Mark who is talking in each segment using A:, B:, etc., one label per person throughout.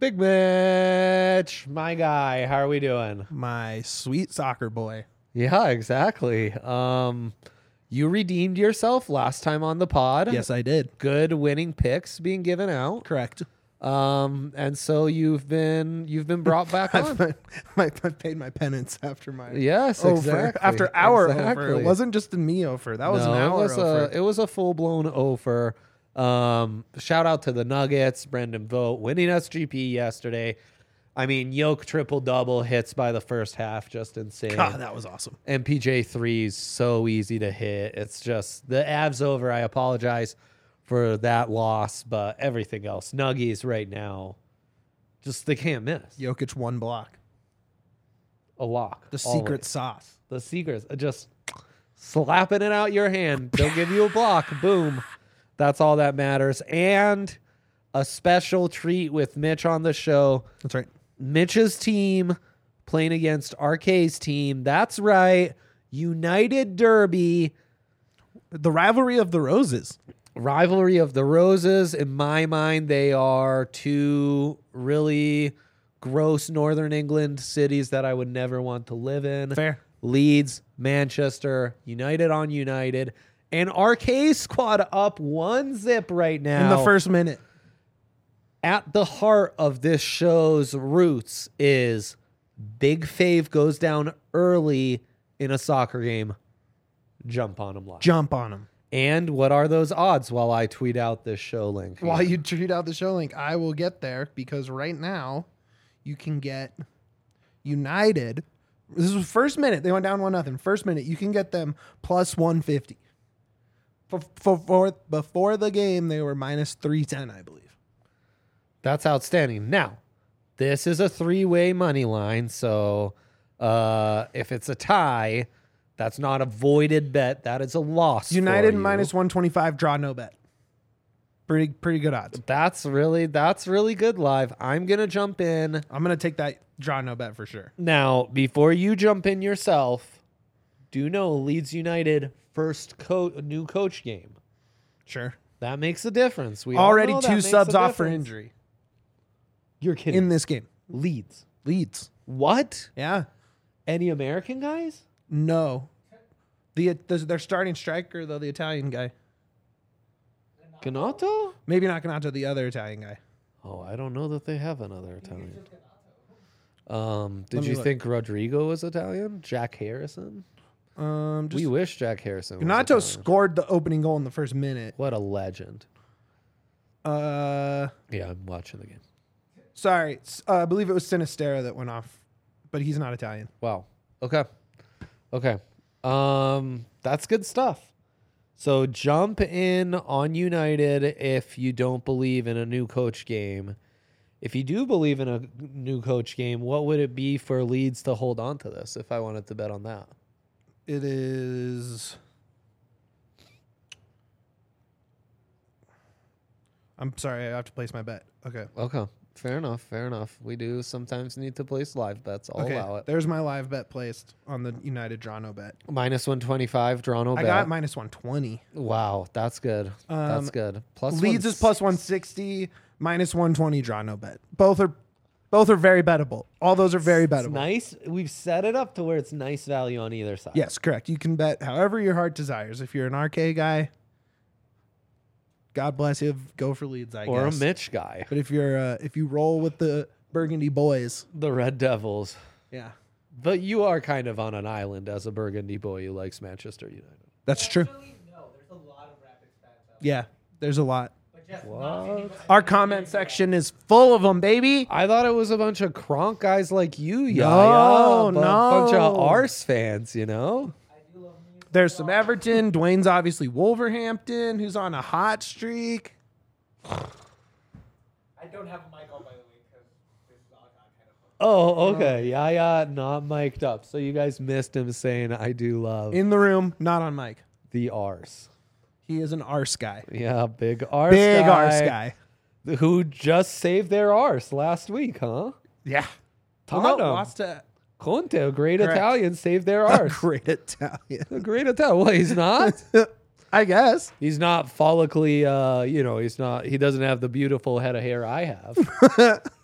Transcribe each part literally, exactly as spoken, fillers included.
A: Big Mitch, my guy. How are we doing?
B: My sweet soccer boy.
A: Yeah, exactly. Um, you redeemed yourself last time on the pod.
B: Yes, I did.
A: Good winning picks being given out.
B: Correct.
A: Um, and so you've been you've been brought back on.
B: I've, my, I paid my penance after my
A: Yes,
B: over.
A: exactly.
B: After our
A: exactly.
B: over. It wasn't just a me over. That was
A: no,
B: an hour
A: it was
B: over.
A: a it was a full blown over. Um, shout out to the Nuggets, Brendan Vogt winning S G P yesterday. I mean, Yoke triple double hits by the first half, just insane.
B: God, that was awesome.
A: M P J threes so easy to hit. It's just the Avs over. I apologize for that loss, but everything else, Nuggies right now, just they can't miss.
B: Jokic one block.
A: A lock.
B: The
A: always.
B: secret sauce.
A: The secrets. Just slapping it out your hand. They'll give you a block. Boom. That's all that matters. And a special treat with Mitch on the show.
B: That's right.
A: Mitch's team playing against R K's team. That's right. United Derby.
B: The rivalry of the roses.
A: Rivalry of the Roses. In my mind, they are two really gross Northern England cities that I would never want to live in.
B: Fair.
A: Leeds, Manchester, United on United. And R K squad up one zip right now.
B: In the first minute.
A: At the heart of this show's roots is Big Fave goes down early in a soccer game. Jump on him live.
B: Jump on him.
A: And what are those odds while I tweet out this show link?
B: While you tweet out the show link, I will get there because right now you can get United. This was first minute. They went down one nothing. First minute, you can get them plus one fifty. For, for, for before the game, they were minus three ten, I believe.
A: That's outstanding. Now, this is a three-way money line, so uh, if it's a tie, that's not a voided bet. That is a loss.
B: United
A: for you.
B: minus one twenty-five, draw no bet. Pretty pretty good odds.
A: That's really that's really good live. I'm gonna jump in
B: I'm gonna take that draw no bet for sure.
A: now. Before you jump in yourself, do know Leeds United first co- new coach game.
B: Sure.
A: That makes a difference. We all
B: Already
A: know that
B: two
A: makes
B: subs
A: a
B: off for
A: difference.
B: injury
A: You're kidding.
B: in this game.
A: Leeds.
B: Leeds.
A: What?
B: Yeah.
A: Any American guys?
B: No. The, the their starting striker though, the Italian guy.
A: Ganato?
B: Maybe not Ganato, the other Italian guy.
A: Oh, I don't know that they have another Italian. Um, did
B: Let me
A: you
B: look.
A: think Rodrigo was Italian? Jack Harrison?
B: Um, just
A: we wish Jack Harrison was
B: Ganato
A: Italian.
B: scored the opening goal in the first minute.
A: What a legend.
B: Uh,
A: Yeah, I'm watching the game.
B: sorry, s- uh, I believe it was Sinistera that went off, but he's not Italian.
A: Wow. Okay. Okay. Um, that's good stuff. So jump in on United if you don't believe in a new coach game. If you do believe in a new coach game, what would it be for Leeds to hold on to this if I wanted to bet on that?
B: It is. I'm sorry, I have to place my bet. Okay.
A: Okay. Fair enough. Fair enough. We do sometimes need to place live bets. I'll
B: okay.
A: allow it.
B: There's my live bet placed on the United draw no bet.
A: Minus one twenty-five, draw no
B: I
A: bet.
B: got minus one twenty.
A: Wow. That's good.
B: Um,
A: that's good. Plus
B: Leeds
A: one
B: is plus one sixty, minus one twenty draw no bet. Both are both are very bettable. All those are very
A: It's
B: bettable.
A: nice. We've set it up to where it's nice value on either side.
B: Yes, correct. You can bet however your heart desires. If you're an R K guy, God bless you. Go for Leeds, I
A: Or
B: guess.
A: a Mitch guy.
B: But if you're uh, if you roll with the Burgundy boys,
A: The Red Devils.
B: yeah,
A: But you are kind of on an island as a Burgundy boy who likes Manchester United.
B: that's true.
C: No, there's a lot of Rapids fans out
B: Yeah, there's a lot.
C: there. But just
A: What?
B: Our comment section is full of them, baby.
A: I thought it was a bunch of Kronk guys like you, Yaya.
B: No,
A: a bu- bunch of
B: no.
A: Arse fans, you know?
B: There's some Everton. Dwayne's obviously Wolverhampton, who's on a hot streak.
C: I don't have a mic on, by the way, because this is all kind of fun.
A: Oh, okay. Yaya not mic'd up. So you guys missed him saying, I do love
B: In the room, not on mic.
A: the Arse.
B: He is an arse guy.
A: Yeah, big Arse
B: Big
A: guy.
B: arse guy.
A: Who just saved their arse last week, huh?
B: Yeah.
A: Tottenham.
B: Well, no, lost to
A: Conte, a great
B: Correct.
A: Italian, saved their
B: a
A: arse.
B: great Italian.
A: A great Italian. Well, he's not.
B: I guess.
A: He's not follically, uh, you know, he's not, he doesn't have the beautiful head of hair I have.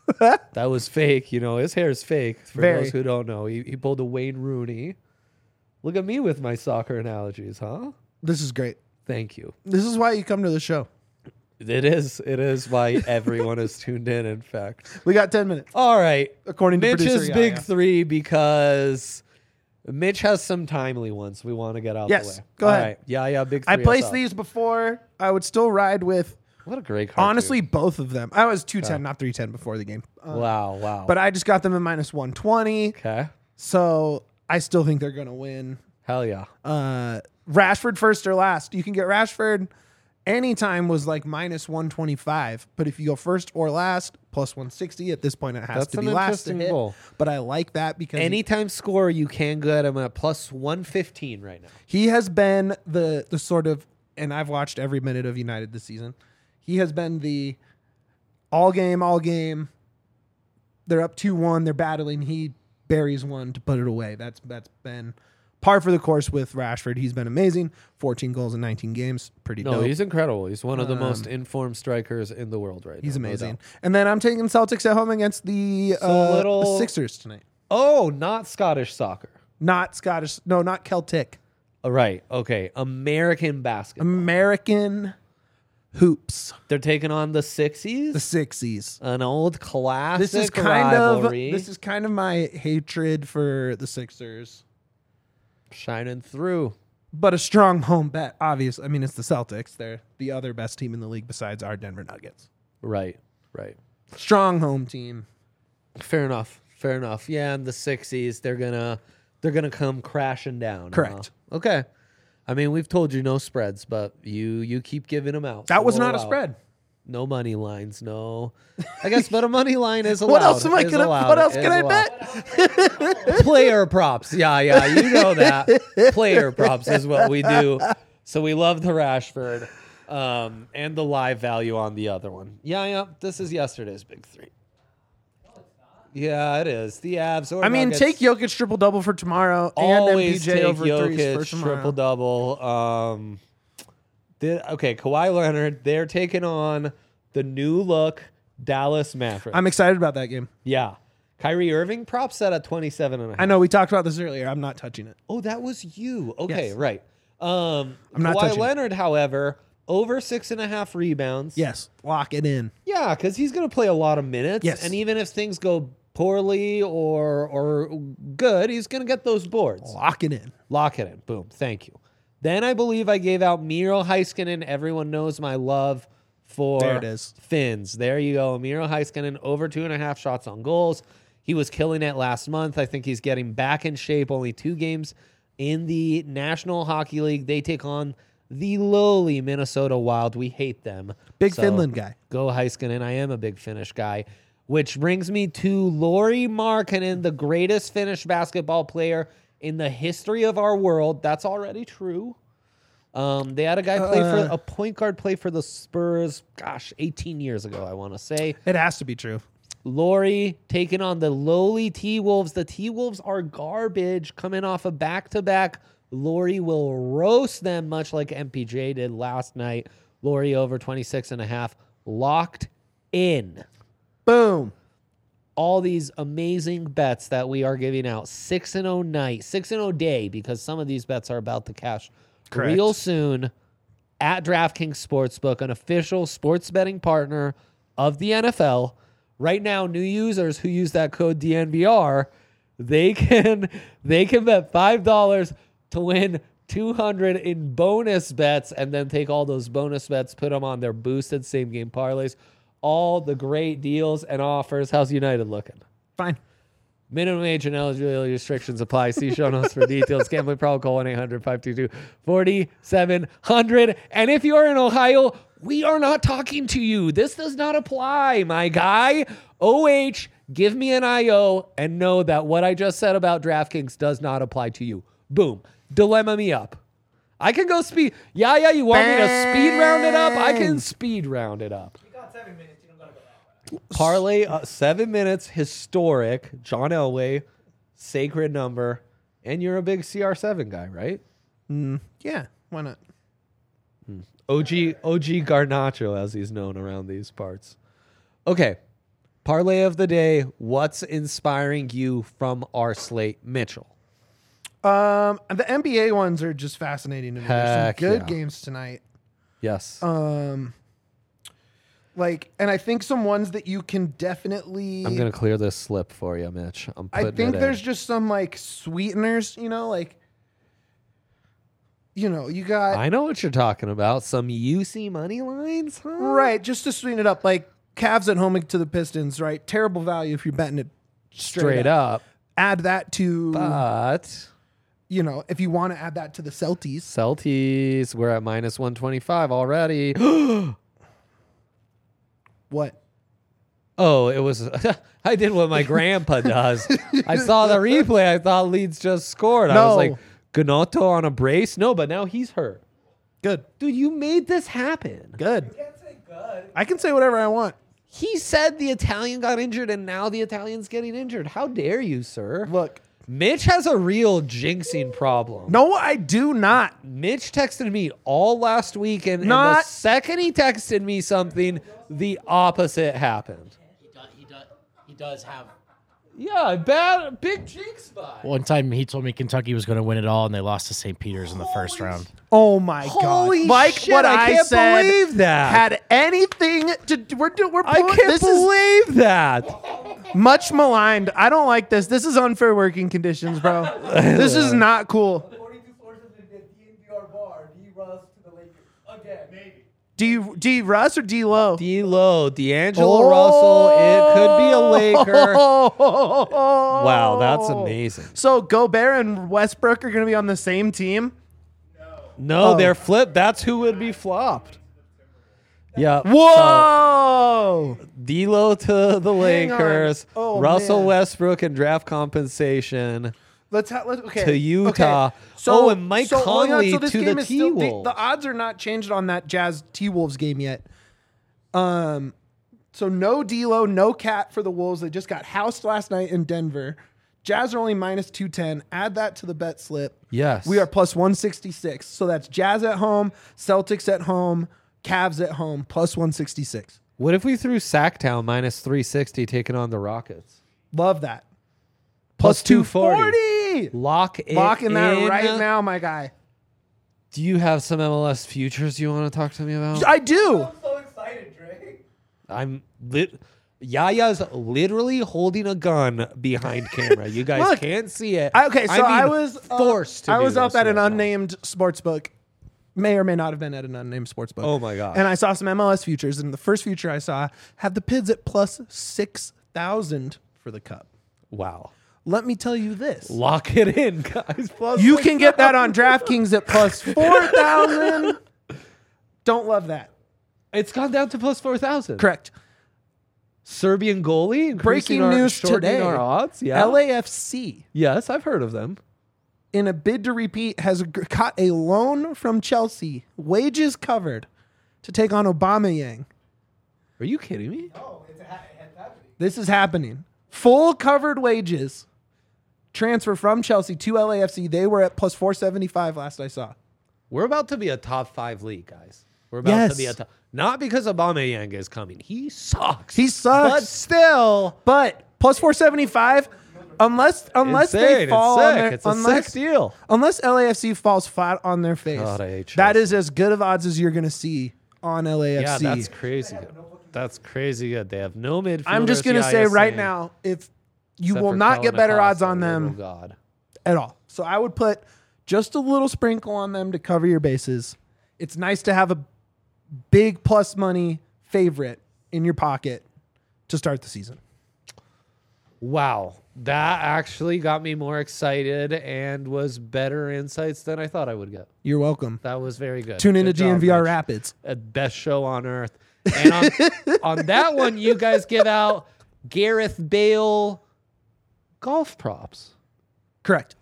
A: That was fake. You know, his hair is fake. For
B: Very.
A: those who don't know, he, he pulled a Wayne Rooney. Look at me with my soccer analogies, huh?
B: This is great.
A: Thank you.
B: This is why you come to the show.
A: It is. It is why everyone is tuned in, in fact.
B: We got ten minutes.
A: All right.
B: According to
A: Mitch's
B: producer
A: big
B: Yaya.
A: three because Mitch has some timely ones we want to get out
B: Yes,
A: the way.
B: go
A: All
B: ahead.
A: right. Yeah, yeah, big three.
B: I placed
A: us up.
B: these before. I would still ride with,
A: What a great cartoon.
B: honestly, both of them. I was two ten,
A: Okay.
B: not three ten before the game. Uh,
A: Wow, wow.
B: But I just got them in minus one twenty.
A: okay.
B: So I still think they're going to win.
A: Hell yeah.
B: Uh, Rashford first or last. You can get Rashford anytime was like minus one twenty-five. But if you go first or last, plus one sixty. At this point, it has
A: That's
B: to
A: an
B: be last to
A: interesting
B: hit.
A: goal.
B: But I like that because
A: Anytime score, you can get him at plus one fifteen right now.
B: he has been the the sort of, and I've watched every minute of United this season. He has been the all game, all game. They're up two one. They're battling. He buries one to put it away. That's that's been par for the course with Rashford. He's been amazing. fourteen goals in nineteen games. Pretty
A: No,
B: dope.
A: he's incredible. He's one of the
B: Um,
A: most informed strikers in the world right
B: He's
A: now. no
B: amazing.
A: doubt.
B: And then I'm taking Celtics at home against the,
A: So
B: uh,
A: little-
B: the Sixers tonight.
A: Oh, not Scottish soccer.
B: Not Scottish. No, not Celtic.
A: All right. Okay. American basketball.
B: American hoops.
A: They're taking on the Sixies.
B: The Sixies.
A: An old classic
B: This is kind
A: rivalry.
B: of this is kind of my hatred for the Sixers,
A: shining through.
B: but a strong home bet. Obviously, I mean it's the Celtics. They're the other best team in the league besides our Denver Nuggets.
A: Right. Right.
B: Strong home team.
A: Fair enough. Fair enough. Yeah, and the Sixies, they're gonna they're gonna come crashing down.
B: Correct.
A: huh? Okay. I mean, we've told you no spreads, but you you keep giving them out.
B: That
A: so
B: was
A: we'll
B: not a
A: allow it.
B: spread.
A: No money lines. No. I guess, but a money line is allowed.
B: What else am I
A: is
B: gonna?
A: allowed,
B: What else
A: is
B: can I
A: allowed.
B: bet?
A: Player props. Yeah, yeah, you know that. Player props is what we do. So we love the Rashford um, and the live value on the other one. Yeah, yeah. This is yesterday's big three. Yeah, it is. The Avs or
B: I mean,
A: Nuggets.
B: take Jokic triple double for tomorrow and M P
A: Always
B: J
A: take
B: over threes for
A: Jokic
B: tomorrow.
A: triple double. Um, did, okay, Kawhi Leonard. They're taking on the new look Dallas Mavericks.
B: I'm excited about that game.
A: yeah, Kyrie Irving prop set at twenty-seven and a half.
B: I know we talked about this earlier. I'm not touching it.
A: Oh, that was you. Okay,
B: Yes.
A: right. Um,
B: I'm not
A: Kawhi
B: touching it.
A: Leonard, however, over six and a half rebounds.
B: Yes, lock it in.
A: Yeah, because he's going to play a lot of minutes.
B: Yes.
A: And even if things go poorly or or good, he's going to get those boards.
B: Lock it in.
A: Lock it in. Boom. Thank you. Then I believe I gave out Miro Heiskanen. Everyone knows my love for
B: There it is.
A: Finns. There you go. Miro Heiskanen over two and a half shots on goals. He was killing it last month. I think he's getting back in shape. Only two games in the National Hockey League. They take on the lowly Minnesota Wild. We hate them.
B: Big
A: So,
B: Finland guy.
A: Go Heiskanen. I am a big Finnish guy. Which brings me to Lauri Markkanen, the greatest Finnish basketball player in the history of our world. That's already true. Um, they had a guy play for
B: Uh.
A: a point guard play for the Spurs. Gosh, eighteen years ago, I want to say.
B: It has to be true.
A: Laurie taking on the lowly T-Wolves. The T-Wolves are garbage coming off a back-to-back. Laurie will roast them much like M P J did last night. Laurie over twenty-six and a half. Locked in.
B: Boom.
A: All these amazing bets that we are giving out. six and oh night, six and oh day, because some of these bets are about to cash
B: Correct.
A: real soon at DraftKings Sportsbook, an official sports betting partner of the N F L. Right now, new users who use that code D N V R, they can they can bet five dollars to win two hundred in bonus bets, and then take all those bonus bets, put them on their boosted same game parlays. All the great deals and offers. How's United looking?
B: Fine.
A: Minimum age and eligibility restrictions apply. See show notes for details. Gambling problem, call one eight hundred five two two four seven zero zero. And if you're in Ohio, we are not talking to you. This does not apply, my guy. O H, give me an I O and know that what I just said about DraftKings does not apply to you. Boom. Dilemma me up. I can go speed. Yeah, yeah, you want me to speed round it up? I can speed round it up.
C: You got seven minutes. You don't gotta go that way.
A: Parlay, uh, seven minutes, historic, John Elway, sacred number, and you're a big C R seven guy, right?
B: Mm, yeah. Why not?
A: O G, O G Garnacho, as he's known around these parts. Okay, Parlay of the day. What's inspiring you from our slate, Mitchell?
B: Um, the N B A ones are just fascinating to me. There's some
A: Heck
B: good
A: yeah.
B: games tonight.
A: Yes.
B: Um, like, and I think some ones that you can definitely.
A: I'm gonna clear this slip for you, Mitch. I'm
B: I
A: putting
B: think
A: it
B: there's
A: in.
B: just some like sweeteners, you know, like. You know, you got
A: I know what you're talking about. Some U C money lines, huh?
B: right just to sweeten it up, like Cavs at home to the Pistons, right? Terrible value if you're betting it straight,
A: Straight
B: up.
A: up.
B: Add that to
A: But
B: you know, if you want to add that to the Celtics.
A: Celtics, we're at minus one twenty-five already.
B: What?
A: Oh, it was. I did what my grandpa does. I saw the replay. I thought Leeds just scored. I
B: No.
A: was like, Ganotto on a brace? No, but now he's hurt.
B: Good.
A: Dude, you made this happen.
B: Good.
C: Can't say good.
B: I can say whatever I want.
A: He said the Italian got injured and now the Italian's getting injured. How dare you, sir?
B: Look.
A: Mitch has a real jinxing problem.
B: No, I do not.
A: Mitch texted me all last week, and, and the
B: Not-
A: second he texted me something, the opposite happened.
D: He does, he does, he does have.
A: Yeah, bad, big jinx spot.
D: One time he told me Kentucky was going to win it all, and they lost to Saint Peter's in the first round.
B: Oh my
A: Holy
B: god! Like
A: shit,
B: what
A: I
B: I,
A: can't
B: said
A: believe that.
B: had anything to do. We're do, we're
A: I
B: pulling-
A: can't
B: this
A: believe that.
B: is much maligned. I don't like this. This is unfair working conditions, bro. This is not cool.
C: According to sources in the D N V R bar, D Russ to the Lakers again. Maybe.
B: D D Russ or D Low?
A: D'Lo, D'Angelo Russell, it could be a Laker.
B: Wow,
A: Wow, that's amazing.
B: So Gobert and Westbrook are going to be on the same team.
A: No,
B: Oh.
A: they're flipped. That's who would be flopped. Yeah.
B: Whoa!
A: So, D'Lo to the
B: Hang on.
A: Lakers.
B: Oh,
A: Russell
B: man.
A: Westbrook and draft compensation
B: Let's have let's, okay
A: to Utah.
B: Okay. So,
A: Oh, and Mike
B: so, hold on.
A: Conley
B: So this
A: to
B: game
A: the
B: is still- the,
A: T-Wolves.
B: the odds are not changed on that Jazz T Wolves game yet. Um, so no D'Lo, no Cat for the Wolves. They just got housed last night in Denver. Jazz are only minus two ten. Add that to the bet slip.
A: Yes.
B: We are plus one sixty-six. So that's Jazz at home, Celtics at home, Cavs at home, plus one sixty-six.
A: What if we threw Sacktown minus three sixty taking on the Rockets?
B: Love that.
A: Plus
B: Plus two forty.
A: Lock it
B: Locking that
A: in.
B: right now, my guy.
A: Do you have some M L S futures you want to talk to me about?
B: I do.
C: I'm so excited, Dre.
A: I'm lit. Yaya's literally holding a gun behind camera. You guys
B: Look,
A: can't see it.
B: I, okay, so I,
A: mean,
B: was uh,
A: forced to
B: I
A: do
B: was up
A: this
B: at an
A: right now.
B: unnamed sports book. May or may not have been at an unnamed sports book.
A: Oh my gosh.
B: And I saw some M L S futures, and the first future I saw had the Pids at plus six thousand for the Cup.
A: Wow.
B: Let me tell you this:
A: Lock it in, guys. Plus
B: you
A: six
B: can get that on DraftKings at plus four thousand. Don't love that.
A: It's gone down to plus four thousand.
B: Correct.
A: Serbian goalie. increasing
B: Breaking
A: our,
B: news
A: shortening
B: today:
A: Our odds. Yeah.
B: L A F C,
A: Yes, I've heard of them.
B: in a bid to repeat, has g- got a loan from Chelsea, wages covered, to take on Aubameyang.
A: Are you kidding me?
C: Oh, it's, ha- it's happening.
B: This is happening. Full covered wages transfer from Chelsea to L A F C. They were at plus four seventy-five last I saw.
A: We're about to be a top five league, guys. We're about
B: Yes.
A: to be a top. Not because Aubameyang is coming. He sucks.
B: He sucks.
A: But still,
B: But plus four seventy-five, unless unless
A: insane.
B: they fall
A: it's
B: on
A: sick.
B: their
A: It's a
B: unless,
A: sick deal.
B: unless L A F C falls flat on their face.
A: God, I hate
B: that
A: Chelsea.
B: is as good of odds as you're going to see on L A F C.
A: Yeah, that's crazy good. That's crazy good. They have no midfielders.
B: I'm just going to
A: yeah,
B: say
A: you're
B: right
A: saying,
B: now, if you
A: except
B: will
A: for
B: not
A: Kellen
B: get better odds
A: Acosta,
B: on
A: little
B: them
A: God.
B: at all. So I would put just a little sprinkle on them to cover your bases. It's nice to have a big plus money favorite in your pocket to start the season.
A: Wow. That actually got me more excited and was better insights than I thought I would get.
B: You're welcome.
A: That was very good.
B: Tune into
A: Good job,
B: G N V R
A: Mitch.
B: Rapids.
A: Uh, best show on earth. And on, on that one, you guys give out Gareth Bale golf props.
B: Correct.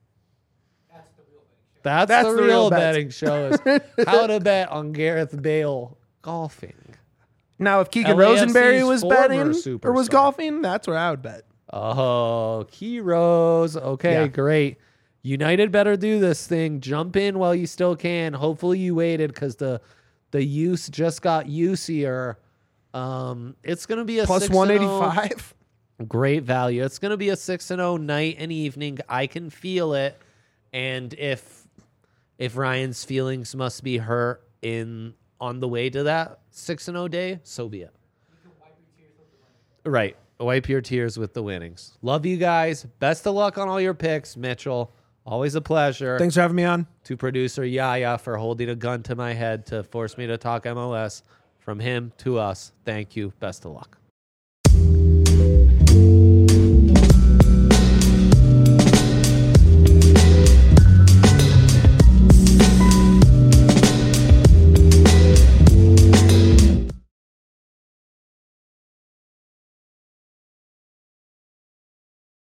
A: That's,
B: That's
A: the,
B: the
A: real,
B: real bets.
A: betting show is how to bet on Gareth Bale golfing.
B: Now, if Keegan
A: L A F C's
B: Rosenberry was
A: former
B: betting or was
A: superstar.
B: golfing, that's where I would bet.
A: Oh, Key Rose. Okay,
B: Yeah.
A: great. United better do this thing. Jump in while you still can. Hopefully you waited because the the use just got usier Um, it's gonna be a
B: Plus
A: six and
B: one
A: oh.
B: eighty-five.
A: Great value. It's going to be a six and oh night and evening. I can feel it. And if if Ryan's feelings must be hurt in on the way to that six and oh day, so be it. Right. Wipe your tears with the winnings. Love you guys. Best of luck on all your picks, Mitchell. Always a pleasure.
B: Thanks for having me on.
A: To producer Yaya for holding a gun to my head to force me to talk M L S. From him to us, thank you. Best of luck.